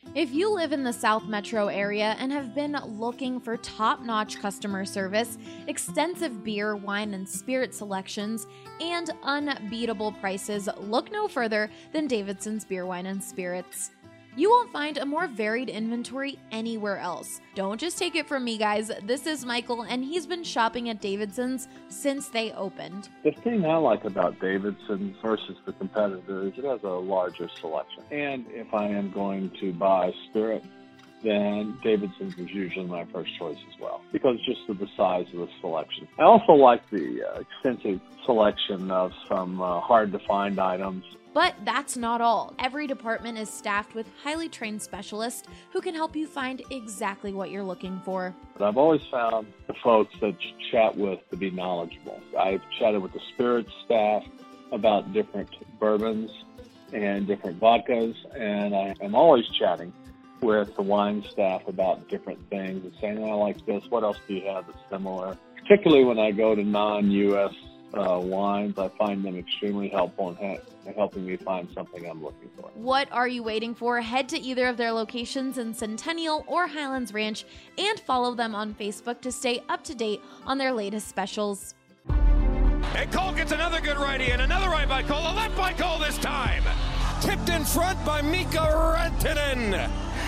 If you live in the South Metro area and have been looking for top-notch customer service, extensive beer, wine, and spirit selections, and unbeatable prices, look no further than Davidson's Beer, Wine, and Spirits. You won't find a more varied inventory anywhere else. Don't just take it from me, guys. This is Michael, and he's been shopping at Davidson's since they opened. The thing I like about Davidson's versus the competitor is it has a larger selection. And if I am going to buy spirit, then Davidson's is usually my first choice as well, because just of the size of the selection. I also like the extensive selection of some hard-to-find items. But that's not all. Every department is staffed with highly trained specialists who can help you find exactly what you're looking for. But I've always found the folks that you chat with to be knowledgeable. I've chatted with the spirits staff about different bourbons and different vodkas, and I am always chatting with the wine staff about different things and saying, I like this, what else do you have that's similar? Particularly when I go to non-U.S. wines, I find them extremely helpful in helping me find something I'm looking for. What are you waiting for? Head to either of their locations in Centennial or Highlands Ranch and follow them on Facebook to stay up to date on their latest specials. And Cole gets another good righty, and another right by Cole, a left by Cole this time. Tipped in front by Mika Rantanen.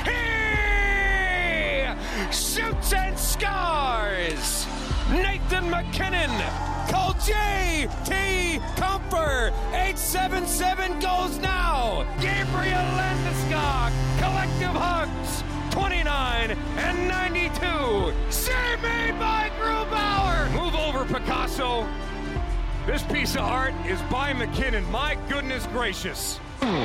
He shoots and scores. Nathan MacKinnon. Call J.T. Comfer. 877 goes now. Gabriel Landeskog. Collective hugs. 29 and 92. Save made by Grubauer. Move over, Picasso. This piece of art is by McKinnon. My goodness gracious.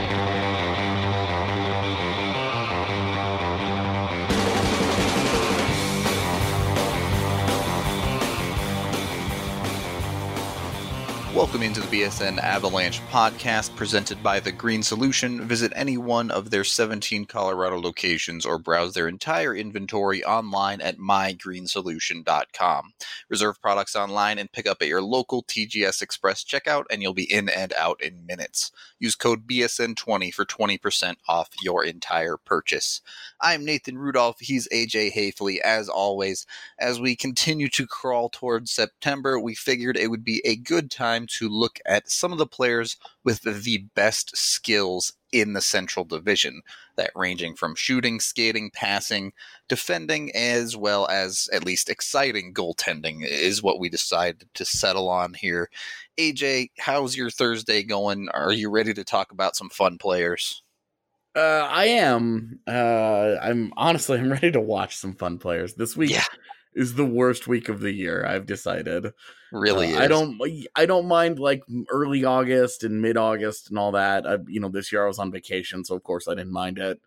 Welcome into the BSN Avalanche podcast presented by The Green Solution. Visit any one of their 17 Colorado locations or browse their entire inventory online at mygreensolution.com. Reserve products online and pick up at your local TGS Express checkout, and you'll be in and out in minutes. Use code BSN20 for 20% off your entire purchase. I'm Nathan Rudolph. He's AJ Hafley. As always, as we continue to crawl towards September, we figured it would be a good time to look at some of the players with the best skills in the Central Division, that ranging from shooting, skating, passing, defending, as well as at least exciting goaltending is what we decided to settle on here. AJ, how's your Thursday going? Are you ready to talk about some fun players? I am. I'm ready to watch some fun players. This week is the worst week of the year, I've decided. Really is. I don't mind like early August and mid-August and all that. This year I was on vacation, so of course I didn't mind it.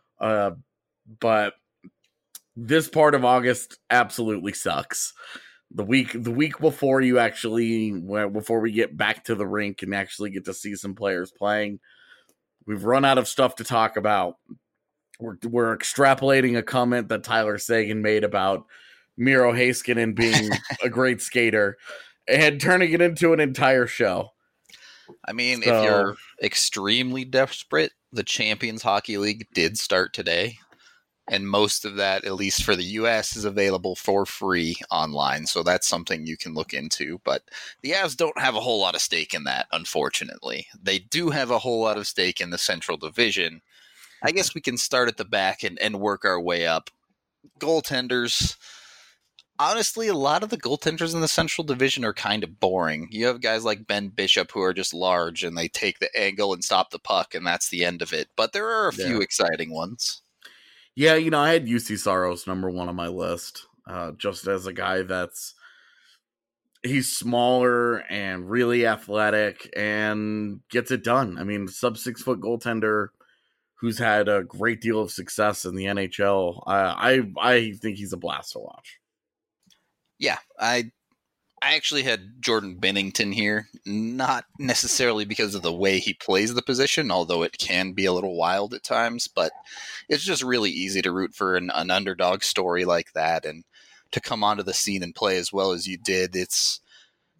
But this part of August absolutely sucks. The week before before we get back to the rink and actually get to see some players playing, we've run out of stuff to talk about. We're extrapolating a comment that Tyler Seguin made about Miro Heiskanen being a great skater and turning it into an entire show. I mean, if you're extremely desperate, the Champions Hockey League did start today, and most of that, at least for the U.S., is available for free online, so that's something you can look into. But the Avs don't have a whole lot of stake in that, unfortunately. They do have a whole lot of stake in the Central Division. I guess we can start at the back and work our way up. Goaltenders. Honestly, a lot of the goaltenders in the Central Division are kind of boring. You have guys like Ben Bishop who are just large and they take the angle and stop the puck, and that's the end of it. But there are a few exciting ones. Yeah, I had UC Saros number one on my list, just as a guy he's smaller and really athletic and gets it done. I mean, sub 6 foot goaltender who's had a great deal of success in the NHL. I think he's a blast to watch. Yeah, I actually had Jordan Binnington here, not necessarily because of the way he plays the position, although it can be a little wild at times, but it's just really easy to root for an underdog story like that, and to come onto the scene and play as well as you did. It's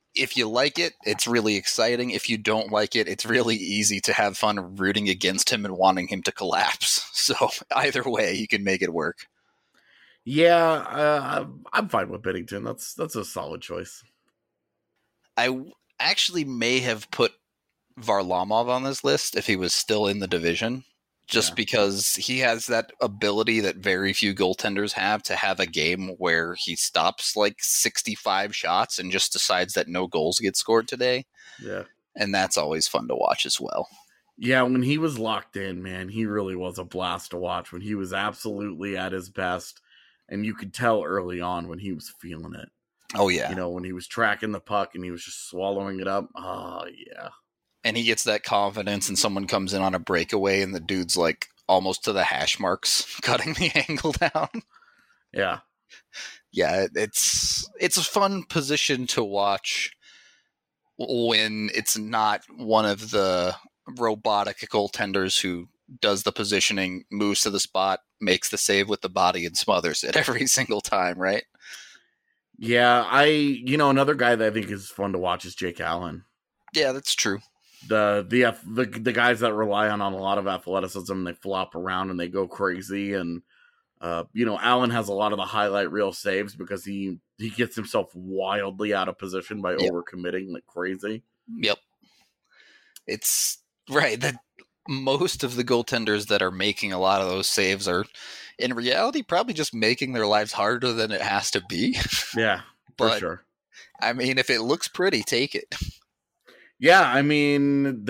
if you like it, it's really exciting. If you don't like it, it's really easy to have fun rooting against him and wanting him to collapse. So either way, you can make it work. Yeah, I'm fine with Binnington. That's a solid choice. I actually may have put Varlamov on this list if he was still in the division, just because he has that ability that very few goaltenders have to have a game where he stops like 65 shots and just decides that no goals get scored today. Yeah. And that's always fun to watch as well. Yeah, when he was locked in, man, he really was a blast to watch when he was absolutely at his best. And you could tell early on when he was feeling it. Oh, yeah. You know, when he was tracking the puck and he was just swallowing it up. Oh, yeah. And he gets that confidence and someone comes in on a breakaway and the dude's like almost to the hash marks, cutting the angle down. Yeah. Yeah, it's a fun position to watch when it's not one of the robotic goaltenders who does the positioning, moves to the spot, makes the save with the body and smothers it every single time, right? Yeah, another guy that I think is fun to watch is Jake Allen. Yeah, that's true. The guys that rely on a lot of athleticism, they flop around and they go crazy. And Allen has a lot of the highlight reel saves because he gets himself wildly out of position by overcommitting like crazy. Yep, it's right that most of the goaltenders that are making a lot of those saves are, in reality, probably just making their lives harder than it has to be. Yeah, but, for sure. I mean, if it looks pretty, take it. Yeah, I mean,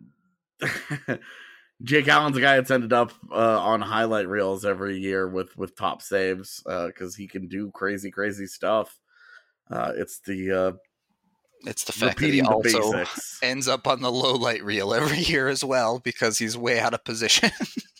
Jake Allen's a guy that's ended up on highlight reels every year with top saves because he can do crazy, crazy stuff. It's the fact that he also ends up on the low light reel every year as well because he's way out of position.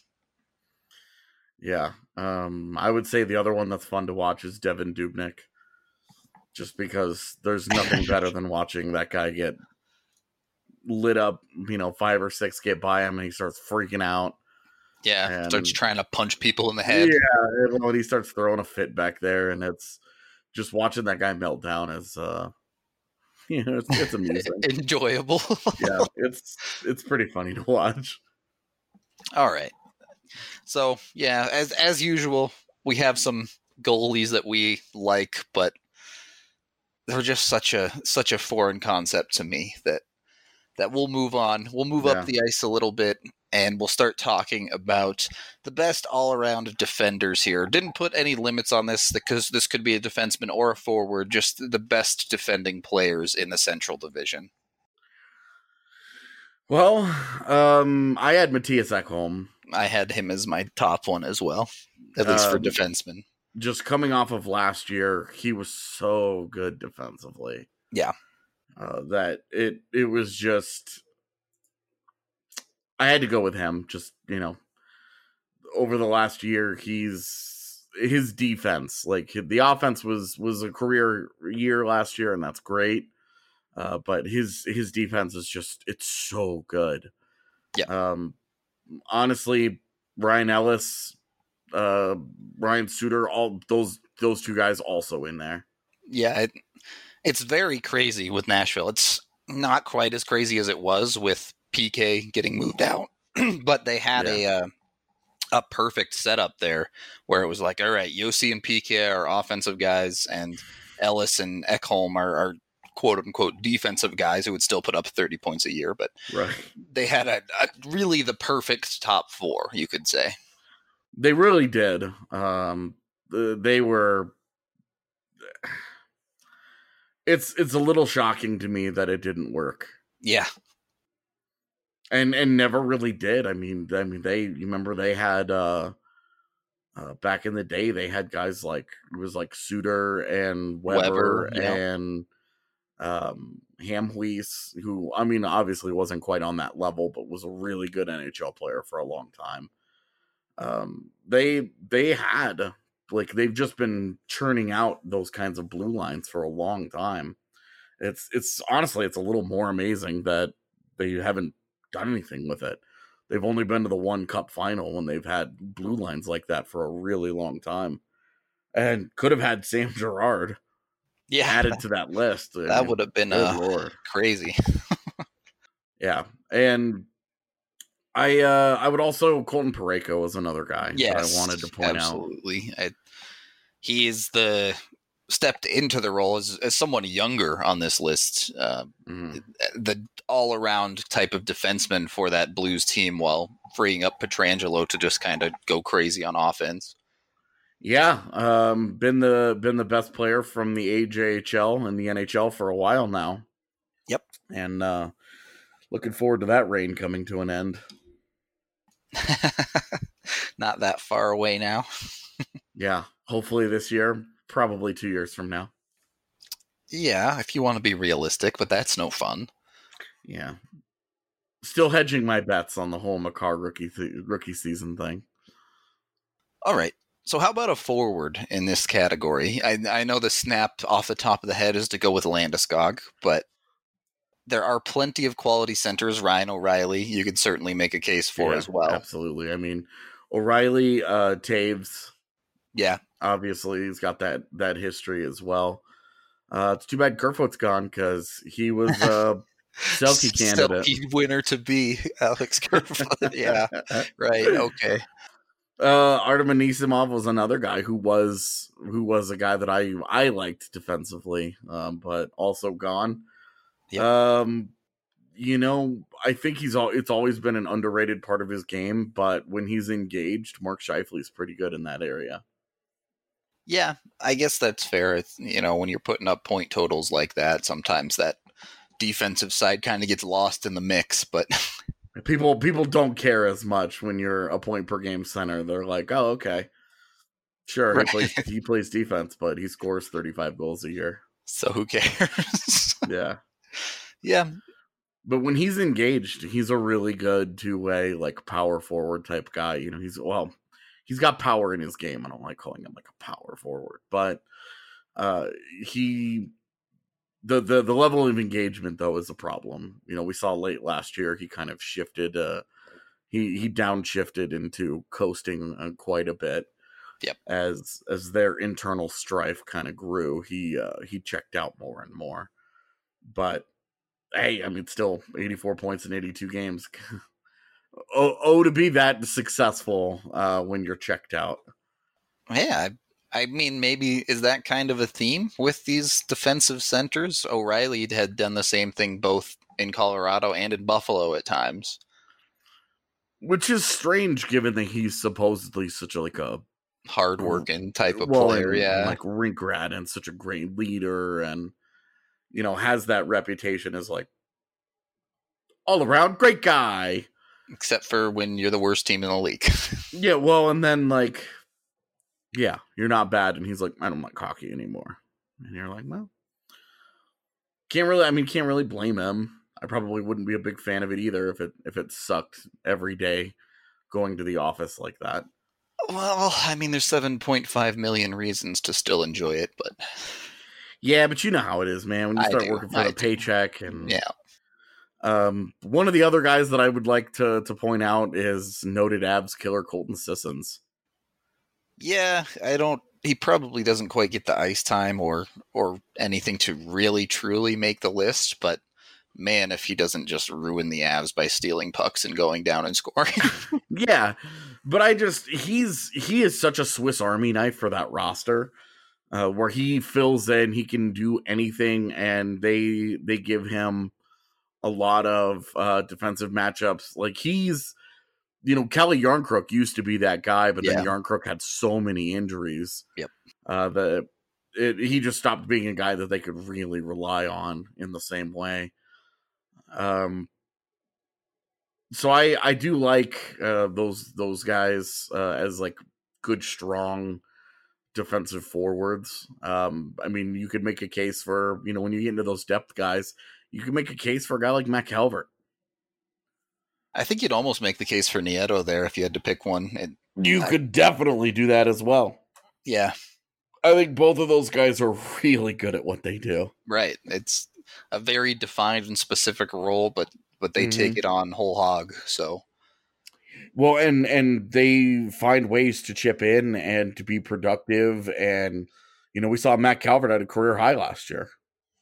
Yeah, I would say the other one that's fun to watch is Devin Dubnyk, just because there's nothing better than watching that guy get lit up, 5 or 6 get by him and he starts freaking out. Yeah, starts trying to punch people in the head. Yeah, when he starts throwing a fit back there, and it's just watching that guy melt down is it's amusing. Enjoyable. Yeah, it's pretty funny to watch. All right. So, yeah, as usual, we have some goalies that we like, but they're just such a foreign concept to me that we'll move on. We'll move up the ice a little bit, and we'll start talking about the best all-around defenders here. Didn't put any limits on this because this could be a defenseman or a forward, just the best defending players in the Central Division. Well, I had Mattias Ekholm. I had him as my top one as well, at least for defensemen. Just coming off of last year, he was so good defensively. Yeah. That it was just, I had to go with him. Just, over the last year, his defense, like the offense was a career year last year, and that's great. But his defense is just, it's so good. Yeah. Honestly, Ryan Ellis, Ryan Suter, all those two guys also in there. Yeah. It's very crazy with Nashville. It's not quite as crazy as it was with PK getting moved out, but they had a perfect setup there where it was like, all right, Yossi and PK are offensive guys, and Ellis and Ekholm are quote unquote defensive guys who would still put up 30 points a year. But they had a really the perfect top 4, you could say. They really did. They were. It's a little shocking to me that it didn't work. Yeah. And never really did. I mean you remember they had back in the day they had guys like it was like Suter and Weber and Hamhuis, who I mean obviously wasn't quite on that level but was a really good NHL player for a long time. They had like they've just been churning out those kinds of blue lines for a long time. It's honestly it's a little more amazing that they haven't done anything with it. They've only been to the one cup final when they've had blue lines like that for a really long time, and could have had Sam Girard. added to that list. That would have been crazy. Yeah, and I would also Colton Parayko was another guy that I wanted to point out. Absolutely. He is stepped into the role as someone younger on this list, the all-around type of defenseman for that Blues team, while freeing up Pietrangelo to just kind of go crazy on offense. Yeah, been the best player from the AJHL and the NHL for a while now. Yep, and looking forward to that reign coming to an end. Not that far away now. Yeah, hopefully this year, probably 2 years from now. Yeah, if you want to be realistic, but that's no fun. Yeah. Still hedging my bets on the whole Makar rookie season thing. All right. So how about a forward in this category? I know the snap off the top of the head is to go with Landeskog, but there are plenty of quality centers. Ryan O'Reilly, you could certainly make a case for as well. Absolutely. I mean, O'Reilly, Taves. Yeah. Obviously, he's got that history as well. It's too bad Kerfoot's gone because he was a Selke candidate. Selke winner to be Alex Kerfoot. Yeah, right. Okay. Artem Anisimov was another guy who was a guy that I liked defensively, but also gone. Yep. I think it's always been an underrated part of his game, but when he's engaged, Mark Scheifele's pretty good in that area. Yeah, I guess that's fair. It's, when you're putting up point totals like that, sometimes that defensive side kind of gets lost in the mix, but people don't care as much when you're a point per game center. They're like, oh, okay. Sure, right. He plays defense, but he scores 35 goals a year. So who cares? Yeah. Yeah. But when he's engaged, he's a really good two-way, like, power forward type guy. He's got power in his game. I don't like calling him like a power forward, but the level of engagement though is a problem. We saw late last year he kind of shifted. He downshifted into coasting quite a bit. Yep. As their internal strife kind of grew, he checked out more and more. But hey, I mean, still 84 points in 82 games. To be that successful when you're checked out. Yeah, I mean, maybe is that kind of a theme with these defensive centers? O'Reilly had done the same thing both in Colorado and in Buffalo at times. Which is strange given that he's supposedly such a hard-working type of player, yeah. Like rink rat and such a great leader and, has that reputation as like all-around great guy. Except for when you're the worst team in the league. Yeah, well, and then, like, yeah, you're not bad. And he's like, I don't like hockey anymore. And you're like, well, can't really blame him. I probably wouldn't be a big fan of it either if it sucked every day going to the office like that. Well, I mean, there's 7.5 million reasons to still enjoy it, but... Yeah, but you know how it is, man. When you start working for the paycheck and... Yeah. One of the other guys that I would like to point out is noted Avs killer Colton Sissons. Yeah, he probably doesn't quite get the ice time or anything to really truly make the list, but man, if he doesn't just ruin the Avs by stealing pucks and going down and scoring. Yeah, but he is such a Swiss Army knife for that roster, where he fills in, he can do anything, and they give him a lot of defensive matchups. Like he's, Kelly Yarncrook used to be that guy, but then Yarncrook had so many injuries. Yep. He just stopped being a guy that they could really rely on in the same way. So I do like those guys as like good, strong defensive forwards. I mean, you could make a case for, when you get into those depth guys, you can make a case for a guy like Matt Calvert. I think you'd almost make the case for Nieto there if you had to pick one. You could definitely do that as well. Yeah. I think both of those guys are really good at what they do. Right. It's a very defined and specific role, but they take it on whole hog, so... Well, and they find ways to chip in and to be productive and, We saw Matt Calvert at a career high last year,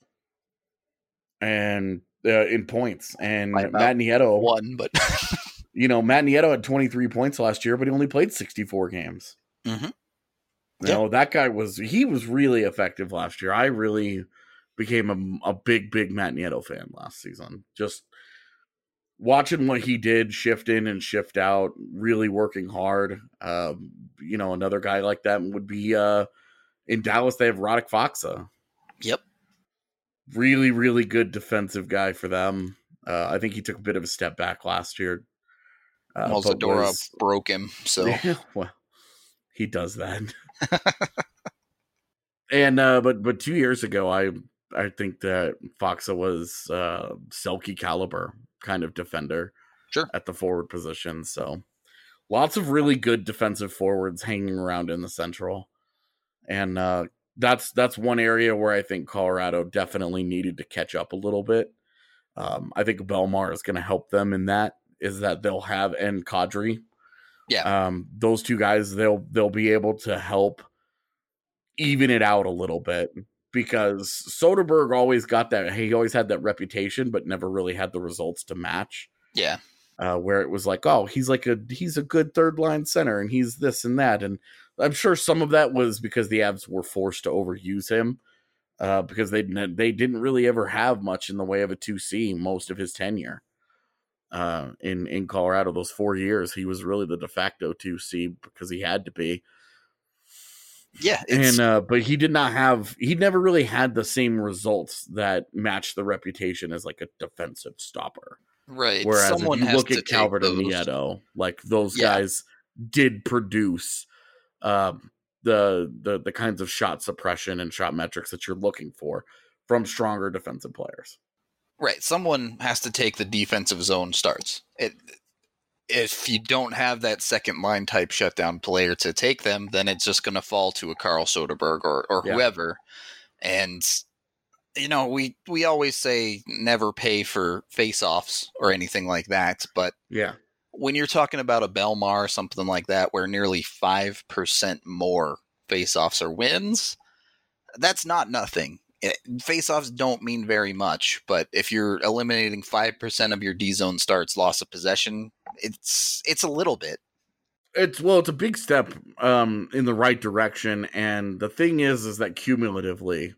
and in points, and Matt Nieto won, but Matt Nieto had 23 points last year, but he only played 64 games. Mm-hmm. That guy was really effective last year. I really became a big Matt Nieto fan last season. Just watching what he did, shift in and shift out, really working hard. Another guy like that would be in Dallas. They have Radek Faksa. Yep. Really, really good defensive guy for them. I think he took a bit of a step back last year. Zadora broke him, so well, he does that. And but 2 years ago, I think that Faksa was Selke caliber kind of defender, sure, at the forward position. So lots of really good defensive forwards hanging around in the Central, and that's one area where I think Colorado definitely needed to catch up a little bit. I think Belmar is going to help them in that. Is that they'll have and Kadri. Yeah. Those two guys, they'll be able to help even it out a little bit, because Soderberg always got that. He always had that reputation, but never really had the results to match. Yeah. Where it was like, oh, he's a good third line center, and he's this and that. And I'm sure some of that was because the Avs were forced to overuse him, because they didn't really ever have much in the way of a 2C most of his tenure. In Colorado, those 4 years, he was really the de facto 2C because he had to be. Yeah, but he never really had the same results that matched the reputation as like a defensive stopper. Right. Whereas if you look at Calvert and Nieto, like those guys did produce the kinds of shot suppression and shot metrics that you're looking for from stronger defensive players. Right. Someone has to take the defensive zone starts. If you don't have that second line type shutdown player to take them, then it's just going to fall to a Carl Soderberg or whoever. And, we always say never pay for face-offs or anything like that. But when you're talking about a Belmar or something like that, where nearly 5% more face-offs are wins, that's not nothing. Face-offs don't mean very much, but if you're eliminating 5% of your D-zone starts loss of possession, it's a little bit. It's a big step in the right direction, and the thing is that cumulatively,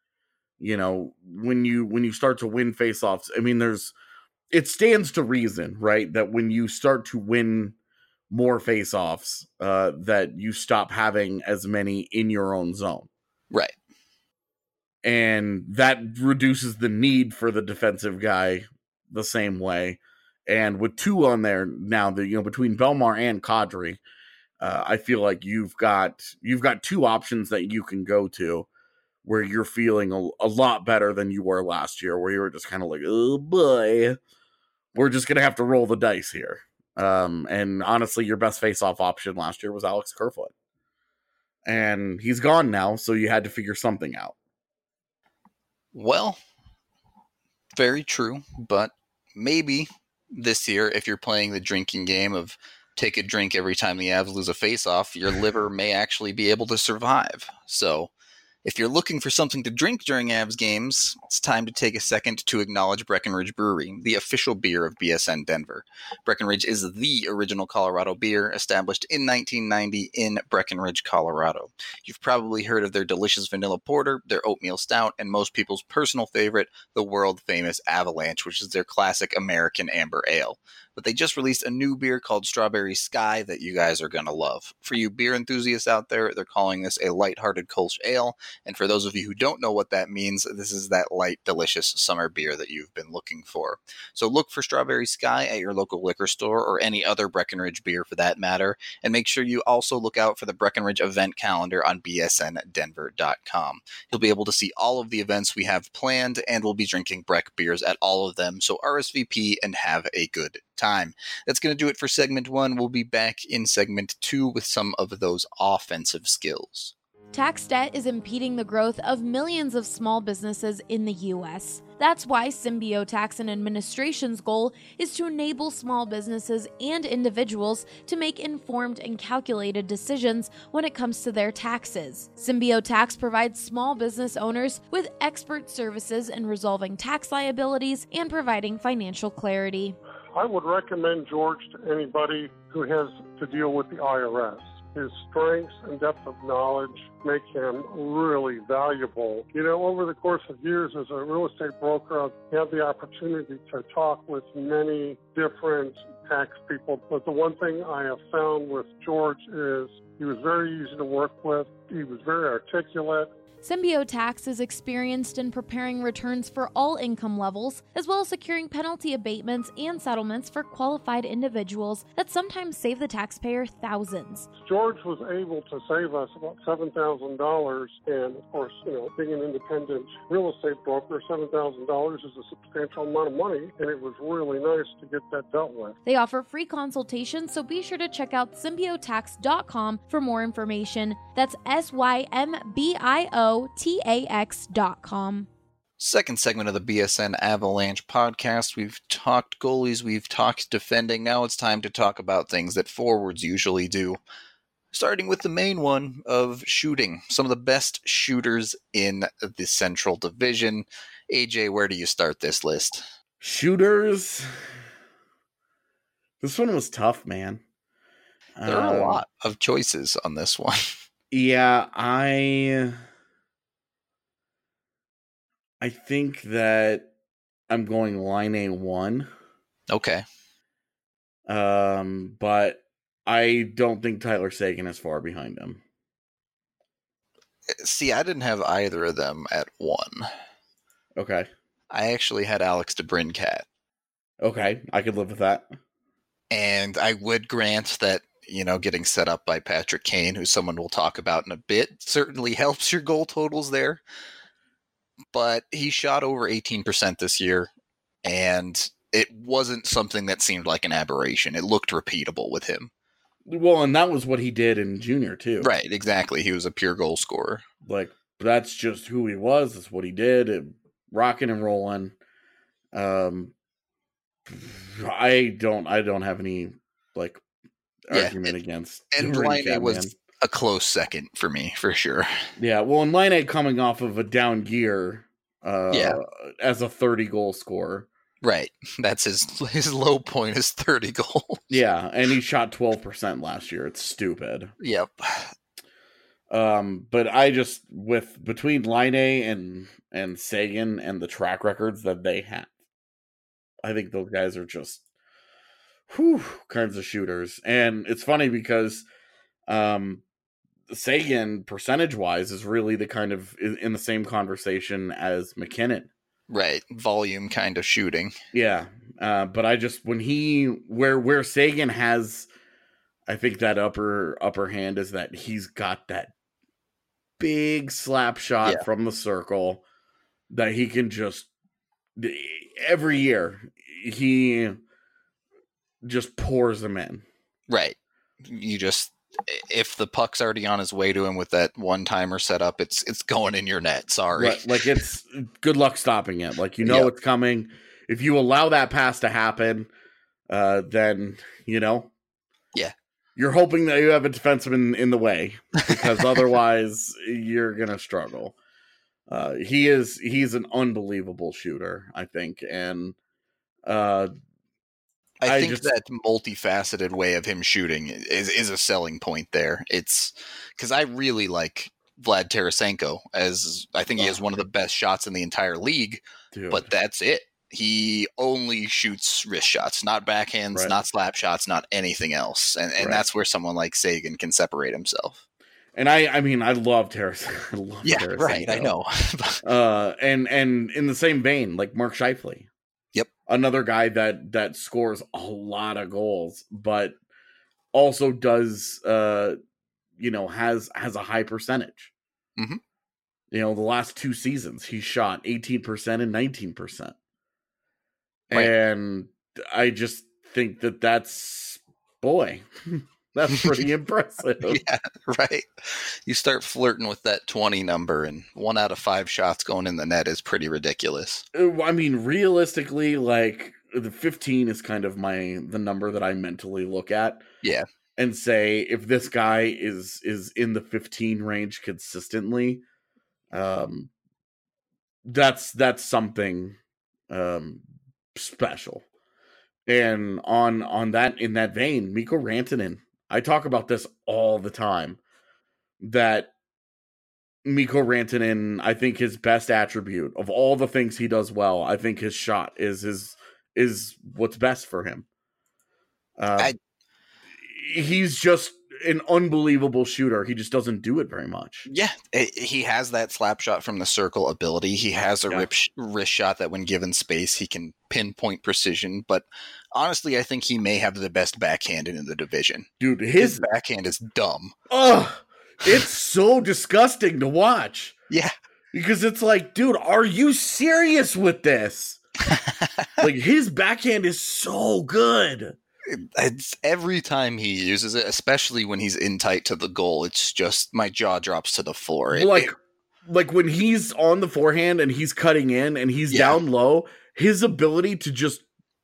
when you start to win face-offs, I mean, it stands to reason, right, that when you start to win more face-offs, that you stop having as many in your own zone. Right. And that reduces the need for the defensive guy the same way. And with two on there now, between Belmar and Kadri, I feel like you've got two options that you can go to where you're feeling a lot better than you were last year, where you were just kind of like, oh boy, we're just going to have to roll the dice here. And honestly, your best face-off option last year was Alex Kerfoot. And he's gone now, so you had to figure something out. Well, very true, but maybe this year, if you're playing the drinking game of take a drink every time the Avs lose a face-off, your liver may actually be able to survive. So if you're looking for something to drink during Avs games, it's time to take a second to acknowledge Breckenridge Brewery, the official beer of BSN Denver. Breckenridge is the original Colorado beer, established in 1990 in Breckenridge, Colorado. You've probably heard of their delicious vanilla porter, their oatmeal stout, and most people's personal favorite, the world-famous Avalanche, which is their classic American amber ale. But they just released a new beer called Strawberry Sky that you guys are going to love. For you beer enthusiasts out there, they're calling this a lighthearted Kolsch ale. And for those of you who don't know what that means, this is that light, delicious summer beer that you've been looking for. So look for Strawberry Sky at your local liquor store or any other Breckenridge beer for that matter. And make sure you also look out for the Breckenridge event calendar on bsndenver.com. You'll be able to see all of the events we have planned, and we'll be drinking Breck beers at all of them. So RSVP and have a good time. That's going to do it for segment 1. We'll be back in segment 2 with some of those offensive skills. Tax debt is impeding the growth of millions of small businesses in the U.S. That's why Symbio Tax and Administration's goal is to enable small businesses and individuals to make informed and calculated decisions when it comes to their taxes. Symbio Tax provides small business owners with expert services in resolving tax liabilities and providing financial clarity. I would recommend George to anybody who has to deal with the IRS. His strengths and depth of knowledge make him really valuable. You know, over the course of years as a real estate broker, I've had the opportunity to talk with many different tax people. But the one thing I have found with George is he was very easy to work with. He was very articulate. Symbio Tax is experienced in preparing returns for all income levels, as well as securing penalty abatements and settlements for qualified individuals that sometimes save the taxpayer thousands. George was able to save us about $7,000, and of course, you know, being an independent real estate broker, $7,000 is a substantial amount of money, and it was really nice to get that dealt with. They offer free consultations, so be sure to check out symbiotax.com for more information. That's symbiotax.com. Second segment of the BSN Avalanche podcast. We've talked goalies, we've talked defending. Now it's time to talk about things that forwards usually do. Starting with the main one of shooting. Some of the best shooters in the Central Division. AJ, where do you start this list? Shooters. This one was tough, man. There are a lot of choices on this one. Yeah, I think that I'm going line A1. Okay. But I don't think Tyler Seguin is far behind him. See, I didn't have either of them at 1. Okay. I actually had Alex DeBrincat. Okay, I could live with that. And I would grant that, you know, getting set up by Patrick Kane, who someone will talk about in a bit, certainly helps your goal totals there. But he shot over 18% this year, and it wasn't something that seemed like an aberration. It looked repeatable with him. Well, and that was what he did in junior, too. Right, exactly. He was a pure goal scorer. Like, that's just who he was. That's what he did. Rocking and rolling. I don't have any, like, argument against. And Laine was a close second for me, for sure. Yeah, well, and Laine coming off of a down year as a 30-goal scorer. Right. That's his low point is 30 goals. Yeah, and he shot 12% last year. It's stupid. Yep. But I just, between Laine and Seguin and the track records that they have, I think those guys are just kinds of shooters. And it's funny because Seguin, percentage-wise, is really the kind of in the same conversation as McKinnon. Right, volume kind of shooting. Yeah, but I just where Seguin has, I think that upper hand is that he's got that big slap shot from the circle that he can just every year he just pours them in. Right, if the puck's already on his way to him with that one-timer set up, it's going in your net. Sorry. Right. Like, it's good luck stopping it. Like, it's coming. If you allow that pass to happen, then, yeah, you're hoping that you have a defenseman in the way, because otherwise you're going to struggle. He's an unbelievable shooter, I think. And, I think that multifaceted way of him shooting is a selling point there. It's because I really like Vlad Tarasenko, as I think he has one of the best shots in the entire league, but that's it. He only shoots wrist shots, not backhands, not slap shots, not anything else. And that's where someone like Seguin can separate himself. And I mean, I love Tarasenko. Tarasenko. Right, I know. And in the same vein, like Mark Scheifele. Yep. Another guy that scores a lot of goals, but also does, has a high percentage. Mm-hmm. The last 2 seasons, he shot 18% and 19%. Right. And I just think that's That's pretty impressive. Yeah, right. You start flirting with that 20 number, and 1 out of 5 shots going in the net is pretty ridiculous. I mean, realistically, like the 15 is kind of the number that I mentally look at. Yeah. And say, if this guy is in the 15 range consistently, that's something special. And on that, in that vein, Mikko Rantanen, I talk about this all the time, that Mikko Rantanen, I think his best attribute of all the things he does well, I think his shot is what's best for him. He's just an unbelievable shooter. He just doesn't do it very much. Yeah, he has that slap shot from the circle ability. He has a wrist shot that when given space, he can pinpoint precision. But honestly, I think he may have the best backhand in the division. Dude, his backhand is dumb. Ugh, it's so disgusting to watch. Yeah. Because it's like, dude, are you serious with this? Like, his backhand is so good. It's every time he uses it, especially when he's in tight to the goal, it's just my jaw drops to the floor. Like when he's on the forehand and he's cutting in and he's down low, his ability to just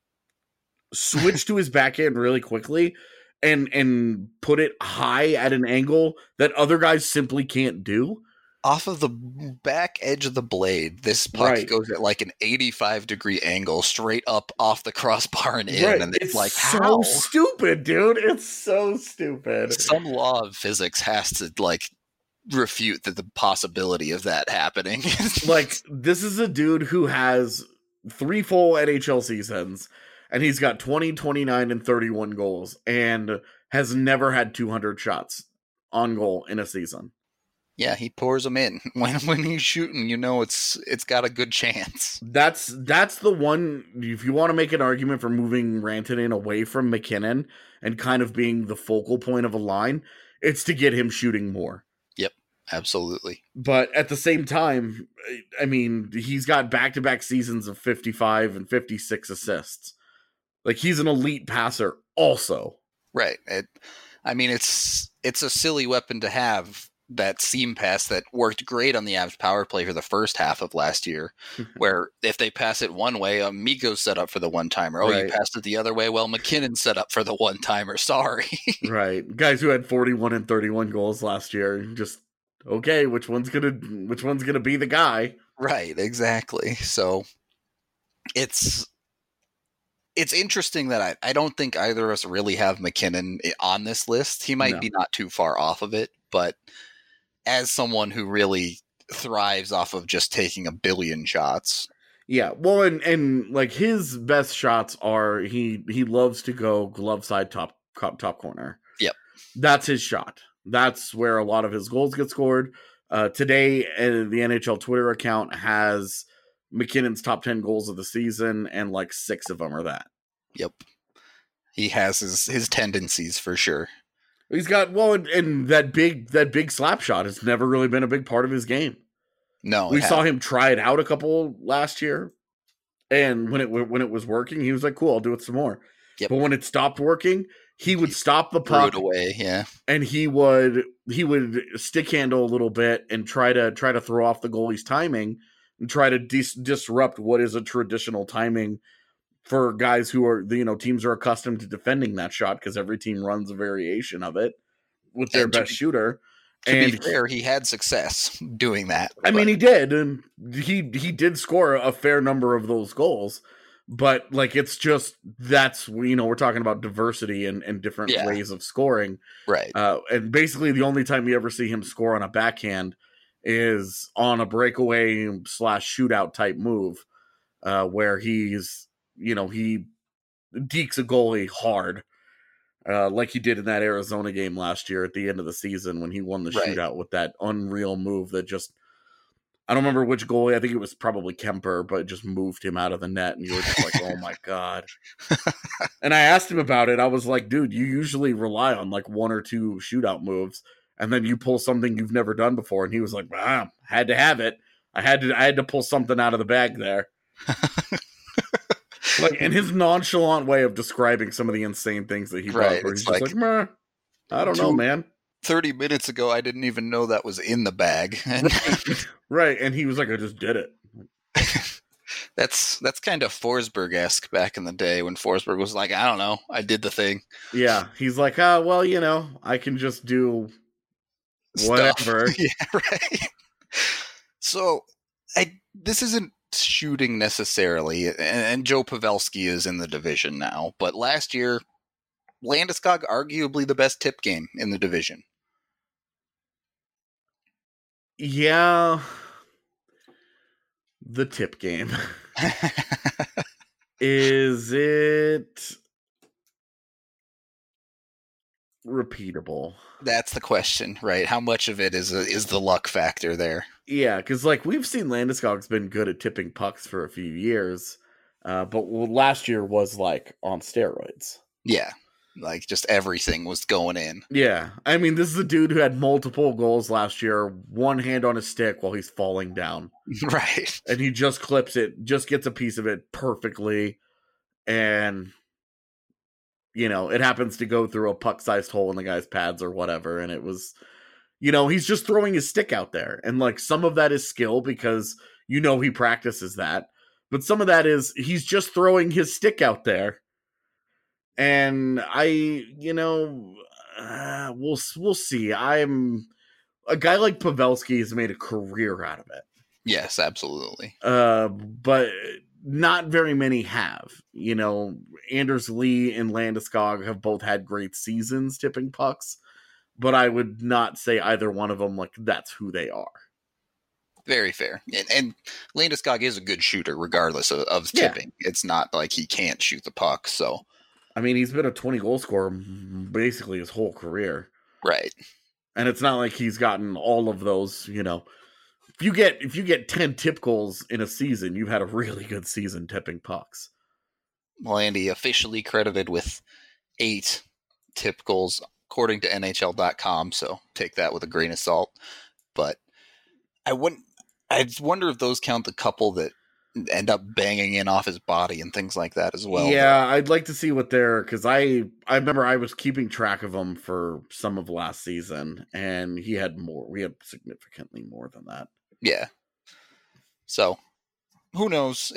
switch to his backhand really quickly and put it high at an angle that other guys simply can't do. Off of the back edge of the blade, this puck goes at like an 85-degree angle straight up off the crossbar and in. Right. And it's like, so stupid, dude. It's so stupid. Some law of physics has to like refute the possibility of that happening. Like, this is a dude who has 3 full NHL seasons, and he's got 20, 29, and 31 goals, and has never had 200 shots on goal in a season. Yeah, he pours them in. When he's shooting, you know it's got a good chance. That's the one, if you want to make an argument for moving Rantanen away from MacKinnon and kind of being the focal point of a line, it's to get him shooting more. Yep, absolutely. But at the same time, I mean, he's got back-to-back seasons of 55 and 56 assists. Like, he's an elite passer also. Right. It's a silly weapon to have, that seam pass that worked great on the Avs power play for the first half of last year, where if they pass it one way, Mikko's set up for the one-timer. Oh, you passed it the other way? Well, MacKinnon's set up for the one-timer. Sorry. Right. Guys who had 41 and 31 goals last year, just, okay, which one's gonna be the guy? Right, exactly. So it's interesting that I don't think either of us really have MacKinnon on this list. He might be not too far off of it, but as someone who really thrives off of just taking a billion shots. Yeah, well, and like his best shots are he loves to go glove side top corner. Yep. That's his shot. That's where a lot of his goals get scored. Today, the NHL Twitter account has MacKinnon's top 10 goals of the season, and like 6 of them are that. Yep. He has his tendencies for sure. He's got, well, and that big slap shot has never really been a big part of his game. No, we saw him try it out a couple last year, and when it was working, he was like, "Cool, I'll do it some more." Yep. But when it stopped working, he would stop the puck away, yeah, and he would stick handle a little bit and try to throw off the goalie's timing and try to disrupt what is a traditional timing for guys who are, teams are accustomed to defending that shot because every team runs a variation of it with their best shooter. To be fair, he had success doing that. I mean, he did, and he did score a fair number of those goals. But like, it's just that's we're talking about diversity and different ways of scoring, right? And basically, the only time you ever see him score on a backhand is on a breakaway / shootout type move, where he's he dekes a goalie hard. Like he did in that Arizona game last year at the end of the season when he won the shootout with that unreal move that just, I don't remember which goalie, I think it was probably Kemper, but it just moved him out of the net and you were just like, oh my God. And I asked him about it. I was like, dude, you usually rely on like 1 or 2 shootout moves and then you pull something you've never done before. And he was like, wow, had to have it. I had to pull something out of the bag there. Like, and his nonchalant way of describing some of the insane things that he does, where he's just like, meh. I don't know, man. 30 minutes ago, I didn't even know that was in the bag. And Right, and he was like, I just did it. that's kind of Forsberg-esque back in the day when Forsberg was like, I don't know, I did the thing. Yeah, he's like, well, I can just do whatever. Yeah, right. So, this isn't shooting necessarily, and Joe Pavelski is in the division now, but last year, Landeskog arguably the best tip game in the division. Yeah. The tip game. Is it repeatable? That's the question, right? How much of it is the luck factor there? Yeah, because we've seen Landeskog's been good at tipping pucks for a few years, but last year was on steroids. Yeah, just everything was going in. Yeah, I mean, this is a dude who had multiple goals last year, one hand on his stick while he's falling down. Right. And he just clips it, just gets a piece of it perfectly, and it happens to go through a puck-sized hole in the guy's pads or whatever, and it was, he's just throwing his stick out there, and some of that is skill because he practices that, but some of that is he's just throwing his stick out there. And we'll see. I'm a guy like Pavelski has made a career out of it. Yes, absolutely. But not very many have. Anders Lee and Landeskog have both had great seasons tipping pucks, but I would not say either one of them that's who they are. Very fair. And Landeskog is a good shooter regardless of tipping. Yeah. It's not like he can't shoot the puck, so. I mean, he's been a 20-goal scorer basically his whole career. Right. And it's not like he's gotten all of those, If you get 10 tip goals in a season, you've had a really good season tipping pucks. Well, Andy officially credited with 8 tip goals according to NHL.com, so take that with a grain of salt. But I wonder if those count the couple that end up banging in off his body and things like that as well. Yeah, I'd like to see what because I remember I was keeping track of them for some of last season, and he had more. We had significantly more than that. Yeah. So, who knows?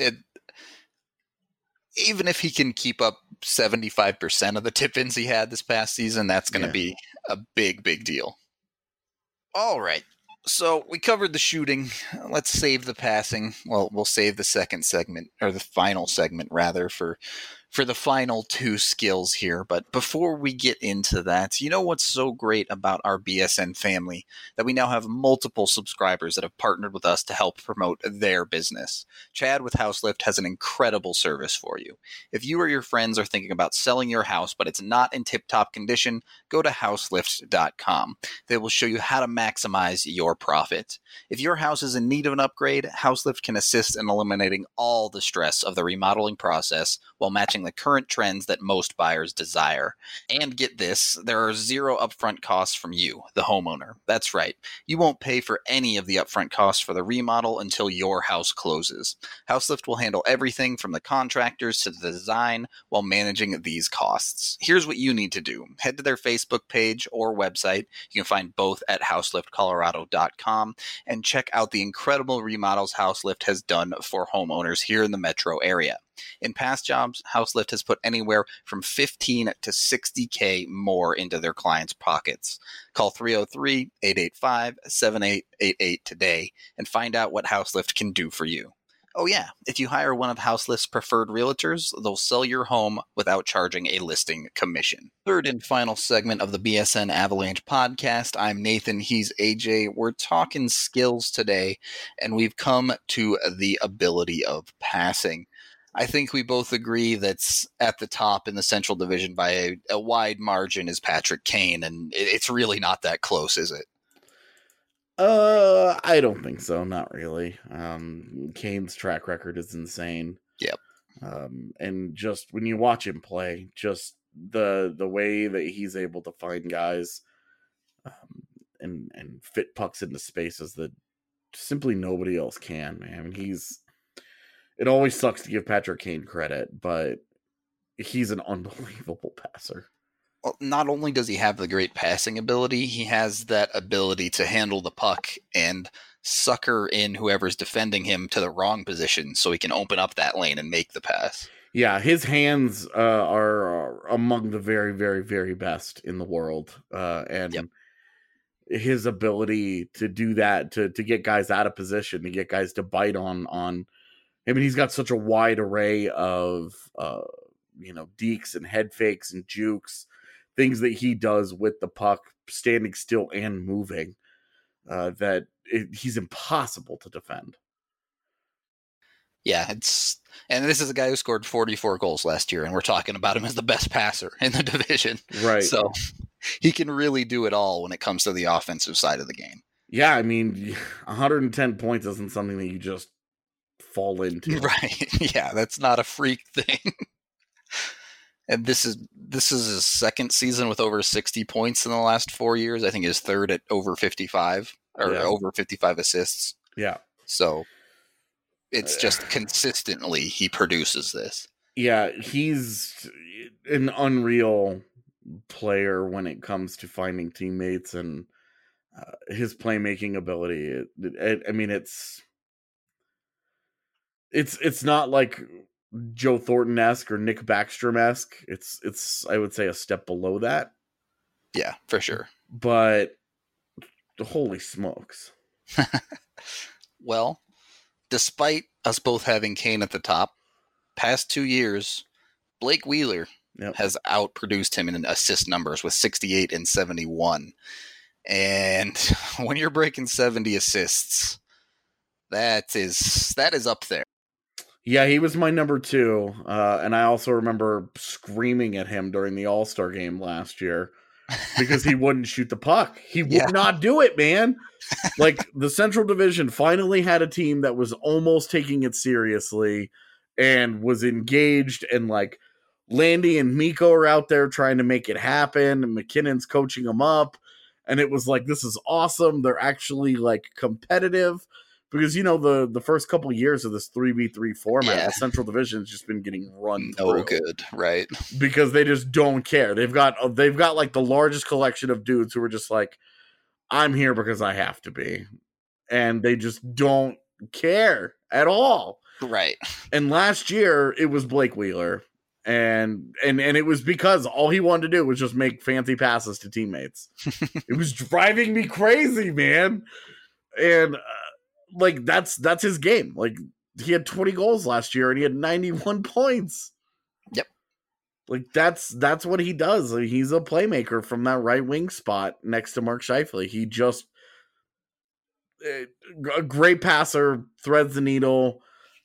Even if he can keep up 75% of the tip-ins he had this past season, that's going to be a big, big deal. All right. So we covered the shooting. Let's save the passing. Well, we'll save the second segment, or the final segment rather, for the final 2 skills here. But before we get into that, what's so great about our BSN family? That we now have multiple subscribers that have partnered with us to help promote their business. Chad with HouseLift has an incredible service for you. If you or your friends are thinking about selling your house, but it's not in tip-top condition, go to houselift.com. They will show you how to maximize your profit. If your house is in need of an upgrade, HouseLift can assist in eliminating all the stress of the remodeling process while matching the current trends that most buyers desire. And get this, there are 0 upfront costs from you, the homeowner. That's right. You won't pay for any of the upfront costs for the remodel until your house closes. HouseLift will handle everything from the contractors to the design while managing these costs. Here's what you need to do. Head to their Facebook page or website. You can find both at houseliftcolorado.com and check out the incredible remodels HouseLift has done for homeowners here in the metro area. In past jobs, HouseLift has put anywhere from $15,000 to $60,000 more into their clients' pockets. Call 303-885-7888 today and find out what HouseLift can do for you. Oh yeah, if you hire one of HouseLift's preferred realtors, they'll sell your home without charging a listing commission. Third and final segment of the BSN Avalanche podcast. I'm Nathan, he's AJ. We're talking skills today, and we've come to the ability of passing. I think we both agree that's at the top in the Central Division by a wide margin is Patrick Kane, and it's really not that close, is it? I don't think so. Not really. Kane's track record is insane. Yep. And just when you watch him play, just the way that he's able to find guys, and fit pucks into spaces that simply nobody else can, man. It always sucks to give Patrick Kane credit, but he's an unbelievable passer. Well, not only does he have the great passing ability, he has that ability to handle the puck and sucker in whoever's defending him to the wrong position so he can open up that lane and make the pass. Yeah, his hands are among the very, very, very best in the world. And his ability to do that, to get guys out of position, to get guys to bite on. I mean, he's got such a wide array of, dekes and head fakes and jukes, things that he does with the puck, standing still and moving, he's impossible to defend. Yeah, and this is a guy who scored 44 goals last year, and we're talking about him as the best passer in the division. Right. So he can really do it all when it comes to the offensive side of the game. Yeah, I mean, 110 points isn't something that you just fall into. Right. Yeah, that's not a freak thing. And this is his second season with over 60 points in the last 4 years. I think his third at over 55 or over 55 assists. Yeah. So it's just consistently he produces this. Yeah, he's an unreal player when it comes to finding teammates and his playmaking ability. I mean, it's not like Joe Thornton-esque or Nick Backstrom-esque. It's I would say a step below that. Yeah, for sure. But holy smokes. Well, despite us both having Kane at the top, past 2 years, Blake Wheeler has outproduced him in assist numbers with 68 and 71. And when you're breaking 70 assists, that is up there. Yeah, he was my number 2. And I also remember screaming at him during the All-Star game last year because he wouldn't shoot the puck. He would not do it, man. Like, the Central Division finally had a team that was almost taking it seriously and was engaged, and like Landy and Mikko are out there trying to make it happen, and McKinnon's coaching them up, and it was like, this is awesome. They're actually like competitive. Because, the first couple of years of this 3v3 format, the Central Division has just been getting run through. Good, right? Because they just don't care. They've got like the largest collection of dudes who are just like, I'm here because I have to be. And they just don't care at all. Right. And last year, it was Blake Wheeler. And it was because all he wanted to do was just make fancy passes to teammates. It was driving me crazy, man. And... like that's his game. Like, he had 20 goals last year and he had 91 points. Yep. Like that's what he does. Like, he's a playmaker from that right wing spot next to Mark Scheifele. He just a great passer, threads the needle.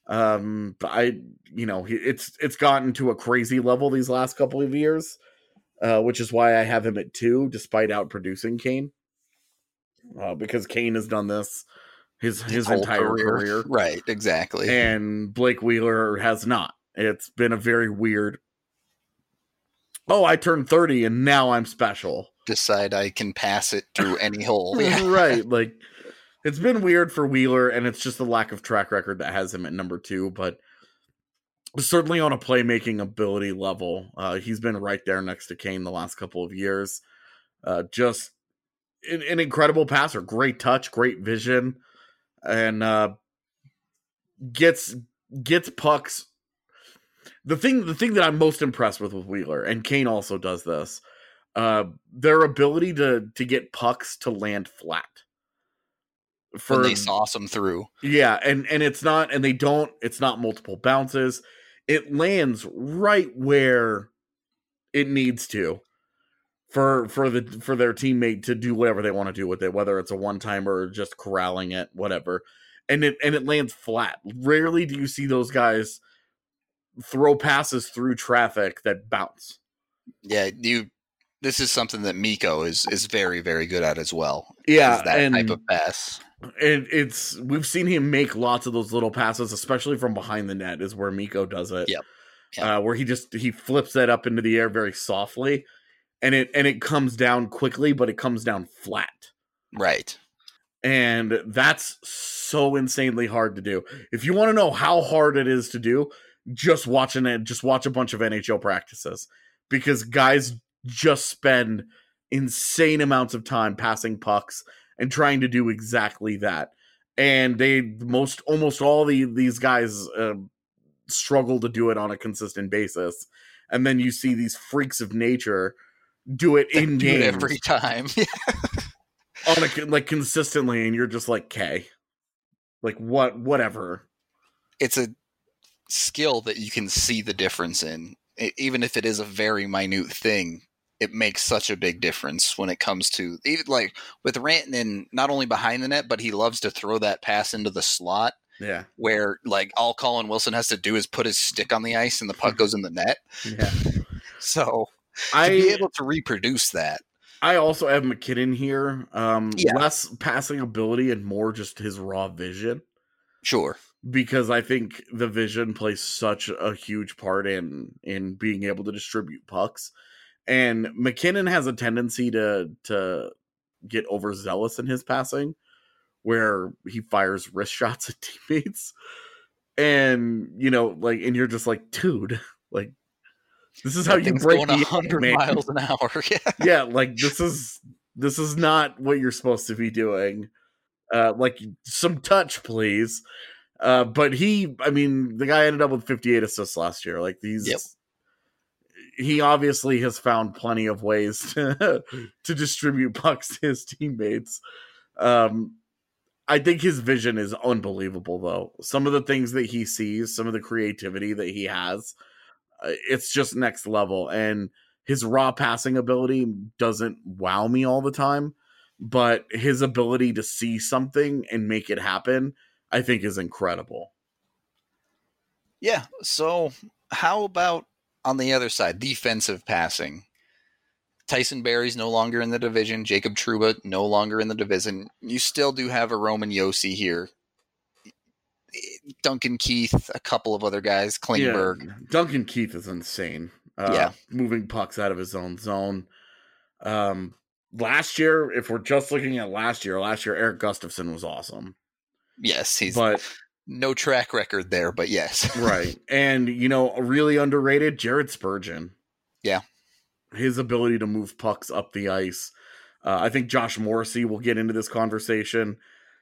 It's gotten to a crazy level these last couple of years, which is why I have him at 2, despite outproducing Kane. Because Kane has done this his entire career. Right, exactly. And Blake Wheeler has not. It's been a very weird, I turned 30 and now I'm special. Decide I can pass it through any hole. Right. Like, it's been weird for Wheeler, and it's just the lack of track record that has him at number 2, but certainly on a playmaking ability level, he's been right there next to Kane the last couple of years. Just an incredible passer, great touch, great vision. And gets pucks. The thing that I'm most impressed with Wheeler, and Kane also does this, their ability to get pucks to land flat. When they sauce them through. Yeah, and it's not multiple bounces. It lands right where it needs to. For their teammate to do whatever they want to do with it, whether it's a one-timer or just corralling it, whatever. And it lands flat. Rarely do you see those guys throw passes through traffic that bounce. Yeah, this is something that Mikko is very, very good at as well. Yeah, that type of pass. And we've seen him make lots of those little passes, especially from behind the net is where Mikko does it. Yep. Where he flips that up into the air very softly. And it comes down quickly, but it comes down flat. Right. And that's so insanely hard to do. If you want to know how hard it is to do, just watch a bunch of NHL practices. Because guys just spend insane amounts of time passing pucks and trying to do exactly that. And almost all these guys struggle to do it on a consistent basis. And then you see these freaks of nature do it in game every time. consistently, and you're just like, okay, like whatever. It's a skill that you can see the difference in. Even if it is a very minute thing, it makes such a big difference when it comes to, even like with Rantanen, not only behind the net, but he loves to throw that pass into the slot. Yeah. Where like all Colin Wilson has to do is put his stick on the ice and the puck goes in the net. Yeah. So to be able to reproduce that. I also have MacKinnon here. Less passing ability and more just his raw vision. Sure. Because I think the vision plays such a huge part in being able to distribute pucks. And MacKinnon has a tendency to get overzealous in his passing, where he fires wrist shots at teammates. And, and you're just like, dude, like, this is how you break going 100 miles an hour. Yeah, like this is not what you're supposed to be doing. Like some touch, please. But the guy ended up with 58 assists last year. Like he obviously has found plenty of ways to distribute pucks to his teammates. I think his vision is unbelievable, though. Some of the things that he sees, some of the creativity that he has, it's just next level. And his raw passing ability doesn't wow me all the time, but his ability to see something and make it happen, I think, is incredible. Yeah. So how about on the other side, defensive passing? Tyson Barrie's no longer in the division. Jacob Trouba no longer in the division. You still do have a Roman Josi here. Duncan Keith, a couple of other guys, Klingberg. Yeah, Duncan Keith is insane. Moving pucks out of his own zone. Last year, if we're just looking at last year, Erik Gustafsson was awesome. Yes, no track record there, but yes. Right. And, really underrated, Jared Spurgeon. Yeah. His ability to move pucks up the ice. I think Josh Morrissey will get into this conversation.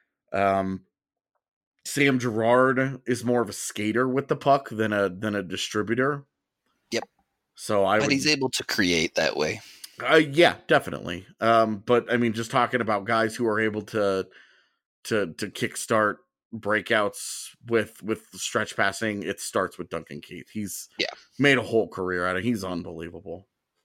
Sam Girard is more of a skater with the puck than a distributor. Yep. So he's able to create that way. Yeah, definitely. But just talking about guys who are able to kickstart breakouts with stretch passing, it starts with Duncan Keith. He's made a whole career out of it. He's unbelievable.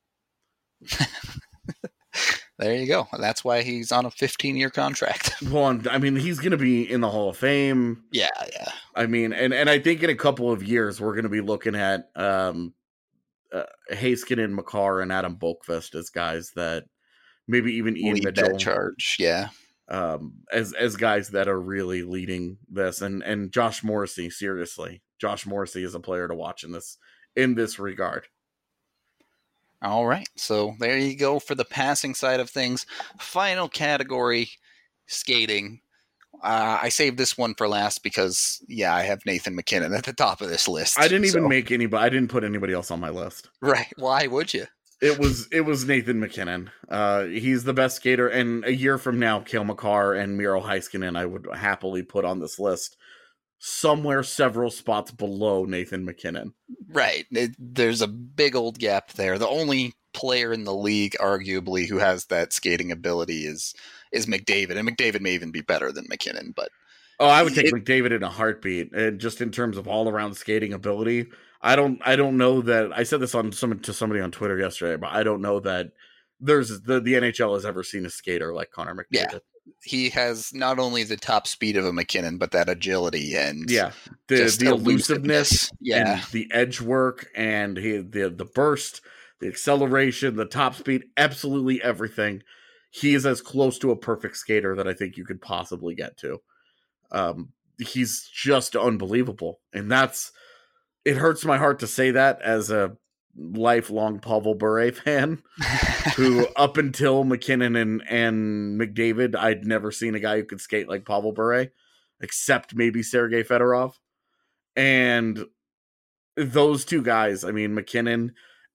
There you go. That's why he's on a 15-year contract. Well, he's going to be in the Hall of Fame. Yeah. And I think in a couple of years we're going to be looking at Heiskanen, Makar, and Adam Boqvist as guys that maybe even Ian Mitchell that charge. Yeah. As guys that are really leading this, and Josh Morrissey, seriously, Josh Morrissey is a player to watch in this regard. All right, so there you go for the passing side of things. Final category, skating. I saved this one for last because, I have Nathan MacKinnon at the top of this list. I didn't even make anybody. I didn't put anybody else on my list. Right? Why would you? It was Nathan MacKinnon. He's the best skater, and a year from now, Cale Makar and Miro Heiskanen, I would happily put on this list somewhere several spots below Nathan MacKinnon. Right. There's a big old gap there. The only player in the league, arguably, who has that skating ability is McDavid, and McDavid may even be better than MacKinnon. But I would take McDavid in a heartbeat, and just in terms of all around skating ability. I don't know that I said this to somebody on Twitter yesterday, but I don't know that there's the NHL has ever seen a skater like Connor McDavid. Yeah. He has not only the top speed of a MacKinnon, but that agility and the elusiveness, and the edge work, and the burst, the acceleration, the top speed, absolutely everything. He is as close to a perfect skater that I think you could possibly get to. He's just unbelievable, and it hurts my heart to say that as a lifelong Pavel Bure fan who up until MacKinnon and McDavid, I'd never seen a guy who could skate like Pavel Bure, except maybe Sergei Fedorov. And those two guys, MacKinnon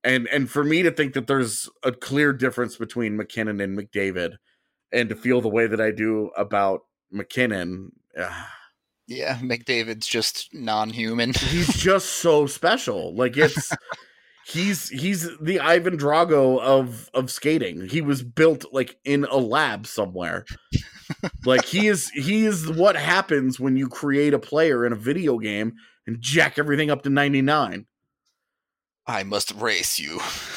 And for me to think that there's a clear difference between McKinnon and McDavid, and to feel the way that I do about McKinnon, Yeah, McDavid's just non-human. he's just so special. Like he's the Ivan Drago of skating. He was built like in a lab somewhere. Like he is what happens when you create a player in a video game and jack everything up to 99. I must race you.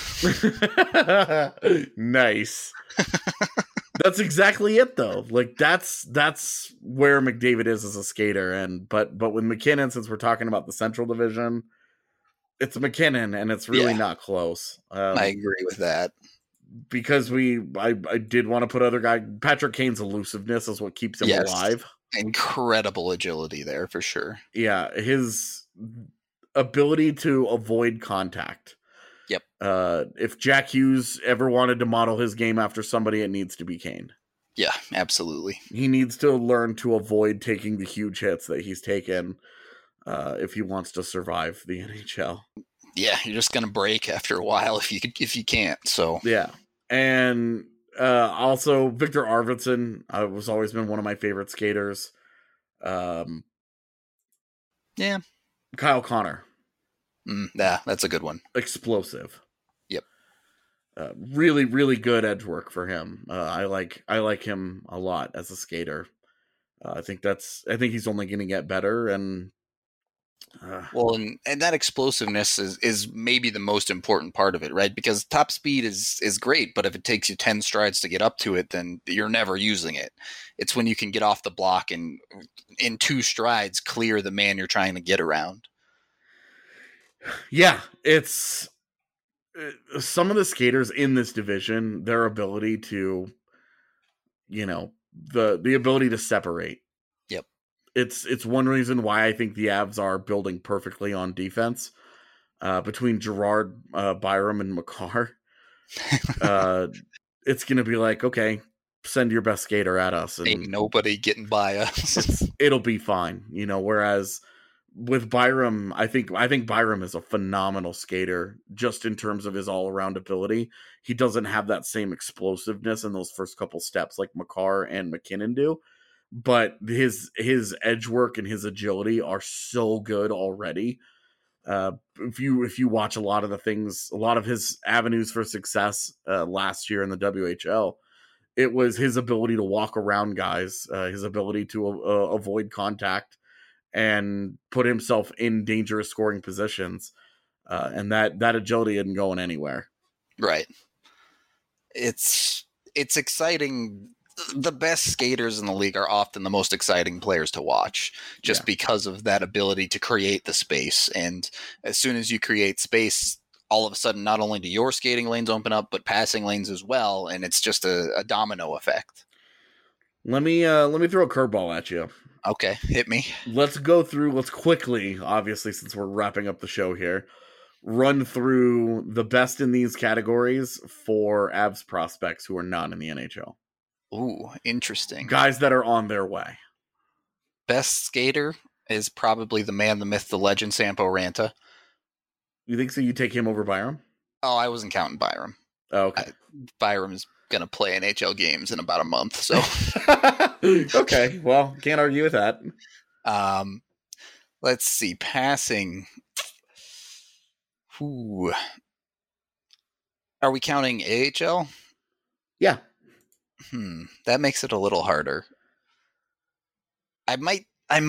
Nice. That's exactly it though. Like that's where McDavid is as a skater. And but with McKinnon, since we're talking about the Central Division, it's McKinnon and it's really not close. I agree with that. Because I did want to put other guy, Patrick Kane's elusiveness is what keeps him alive. Incredible agility there for sure. Yeah, his ability to avoid contact. Yep. If Jack Hughes ever wanted to model his game after somebody, it needs to be Kane. Yeah, absolutely. He needs to learn to avoid taking the huge hits that he's taken if he wants to survive the NHL. Yeah, you're just gonna break after a while if you can't. So yeah, and also Victor Arvidsson was always been one of my favorite skaters. Yeah, Kyle Connor. Yeah, that's a good one. Explosive. Yep. Really, really good edge work for him. I like him a lot as a skater. I think he's only going to get better. And well, and that explosiveness is maybe the most important part of it, right? Because top speed is great, but if it takes you 10 strides to get up to it, then you're never using it. It's when you can get off the block and in 2 strides clear the man you're trying to get around. Yeah, it's some of the skaters in this division, their ability to, the ability to separate. Yep. It's one reason why I think the Avs are building perfectly on defense. Between Gerard, Byram, and Makar, it's going to be like, okay, send your best skater at us. And ain't nobody getting by us. It'll be fine, whereas with Byram, I think Byram is a phenomenal skater just in terms of his all-around ability. He doesn't have that same explosiveness in those first couple steps like Makar and McKinnon do, but his edge work and his agility are so good already. If you watch a lot of his avenues for success last year in the WHL, it was his ability to walk around guys, his ability to avoid contact and put himself in dangerous scoring positions. And that agility isn't going anywhere. Right. It's exciting. The best skaters in the league are often the most exciting players to watch just because of that ability to create the space. And as soon as you create space, all of a sudden, not only do your skating lanes open up, but passing lanes as well. And it's just a domino effect. Let me throw a curveball at you. Okay, hit me. Let's quickly, obviously, since we're wrapping up the show here, run through the best in these categories for Avs prospects who are not in the NHL. Ooh, interesting. Guys that are on their way. Best skater is probably the man, the myth, the legend, Sampo Ranta. You think so? You take him over Byram? Oh, I wasn't counting Byram. Oh, okay. Byram's going to play NHL games in about a month, so... Okay, well, can't argue with that. Let's see, passing. Ooh. Are we counting AHL? Yeah. That makes it a little harder. I might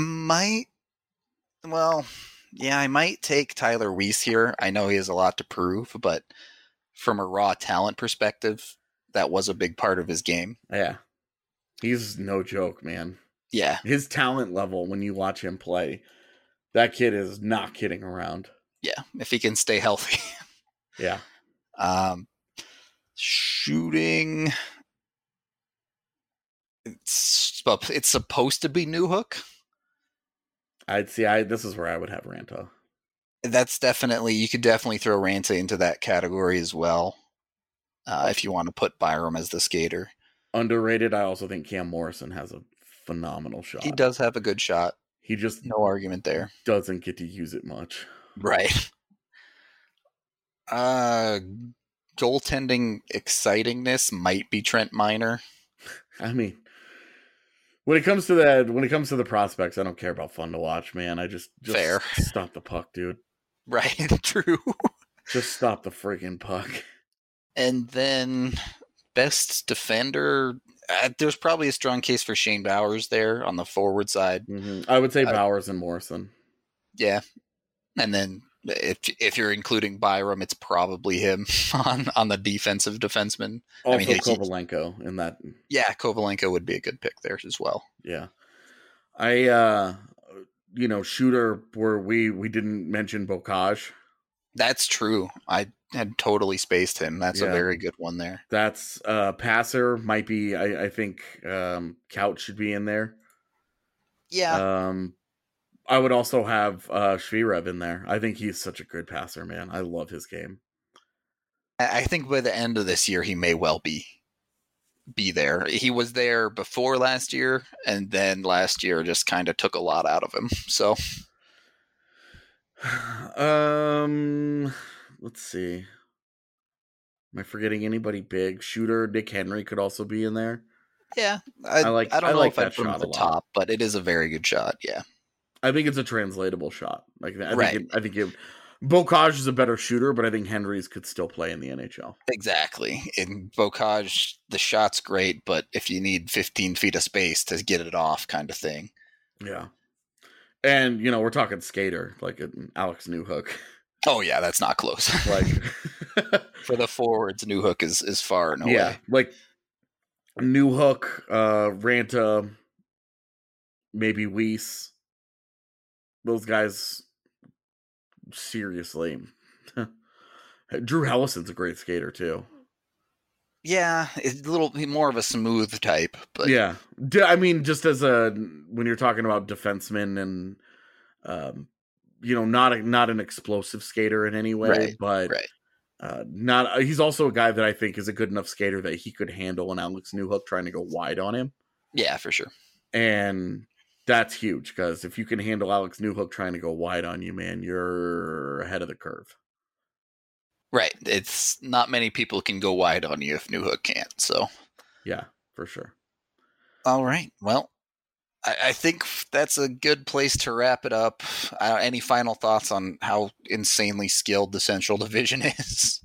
take Tyler Weiss here. I know he has a lot to prove, but from a raw talent perspective, that was a big part of his game. Yeah. He's no joke, man. Yeah. His talent level, when you watch him play, that kid is not kidding around. Yeah, if he can stay healthy. Yeah. Shooting. It's supposed to be Newhook. This is where I would have Ranta. You could definitely throw Ranta into that category as well. If you want to put Byram as the skater. Underrated, I also think Cam Morrison has a phenomenal shot. He does have a good shot. He just no argument there. Doesn't get to use it much. Right. Goaltending excitingness might be Trent Miner. I mean, when it comes to the prospects, I don't care about fun to watch, man. I just Fair. Stop the puck, dude. Right, true. Just stop the freaking puck. And then best defender, there's probably a strong case for Shane Bowers there on the forward side. Mm-hmm. I would say Bowers and Morrison. Yeah. And then if you're including Byram, it's probably him on the defensive defenseman. Also Kovalenko in that. Yeah, Kovalenko would be a good pick there as well. Yeah. Shooter where we didn't mention Bocage. That's true. I had totally spaced him. That's a very good one there. That's passer might be. I think Couch should be in there. Yeah. I would also have Shvirev in there. I think he's such a good passer, man. I love his game. I think by the end of this year, he may well be there. He was there before last year, and then last year just kind of took a lot out of him. So, let's see. Am I forgetting anybody big? Shooter Nick Henry could also be in there. Yeah, I don't know if I'd put him at the top, but it is a very good shot. Yeah, I think it's a translatable shot. I think Bocage is a better shooter, but I think Henry's could still play in the NHL. Exactly. In Bocage, the shot's great, but if you need 15 feet of space to get it off, kind of thing. Yeah, and we're talking skater like Alex Newhook. Oh yeah, that's not close. Like for the forwards, Newhook is far and away. Yeah, like Newhook, Ranta, maybe Weiss. Those guys, seriously. Drew Hellison's a great skater too. Yeah, it's a little more of a smooth type, but yeah, I mean, just as when you're talking about defensemen and not an explosive skater in any way, right, but right. He's also a guy that I think is a good enough skater that he could handle an Alex Newhook trying to go wide on him. Yeah, for sure. And that's huge because if you can handle Alex Newhook trying to go wide on you, man, you're ahead of the curve. Right. It's not many people can go wide on you if Newhook can't. So yeah, for sure. All right. Well, I think that's a good place to wrap it up. Any final thoughts on how insanely skilled the Central Division is?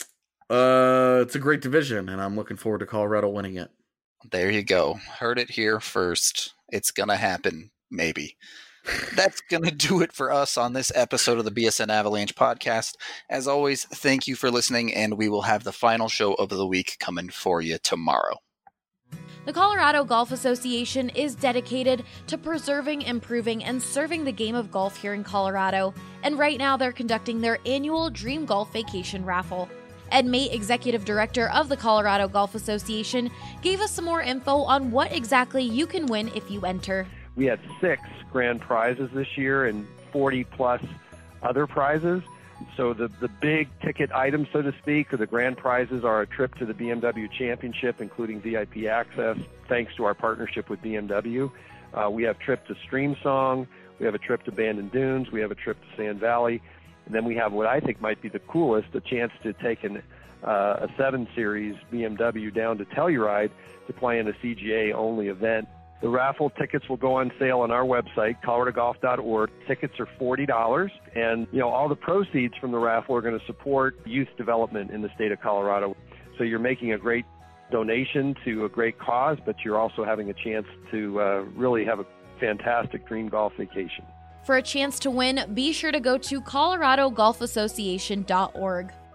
It's a great division, and I'm looking forward to Colorado winning it. There you go. Heard it here first. It's going to happen, maybe. That's going to do it for us on this episode of the BSN Avalanche podcast. As always, thank you for listening, and we will have the final show of the week coming for you tomorrow. The Colorado Golf Association is dedicated to preserving, improving, and serving the game of golf here in Colorado, and right now they're conducting their annual Dream Golf Vacation Raffle. Ed Mate, Executive Director of the Colorado Golf Association, gave us some more info on what exactly you can win if you enter. We had 6 grand prizes this year and 40 plus other prizes. So the big ticket items, so to speak, or the grand prizes are a trip to the BMW Championship, including VIP access, thanks to our partnership with BMW. We have a trip to Streamsong. We have a trip to Bandon Dunes. We have a trip to Sand Valley. And then we have what I think might be the coolest, a chance to take a 7 Series BMW down to Telluride to play in a CGA-only event. The raffle tickets will go on sale on our website, coloradogolf.org. Tickets are $40, and all the proceeds from the raffle are going to support youth development in the state of Colorado. So you're making a great donation to a great cause, but you're also having a chance to really have a fantastic dream golf vacation. For a chance to win, be sure to go to coloradogolfassociation.org.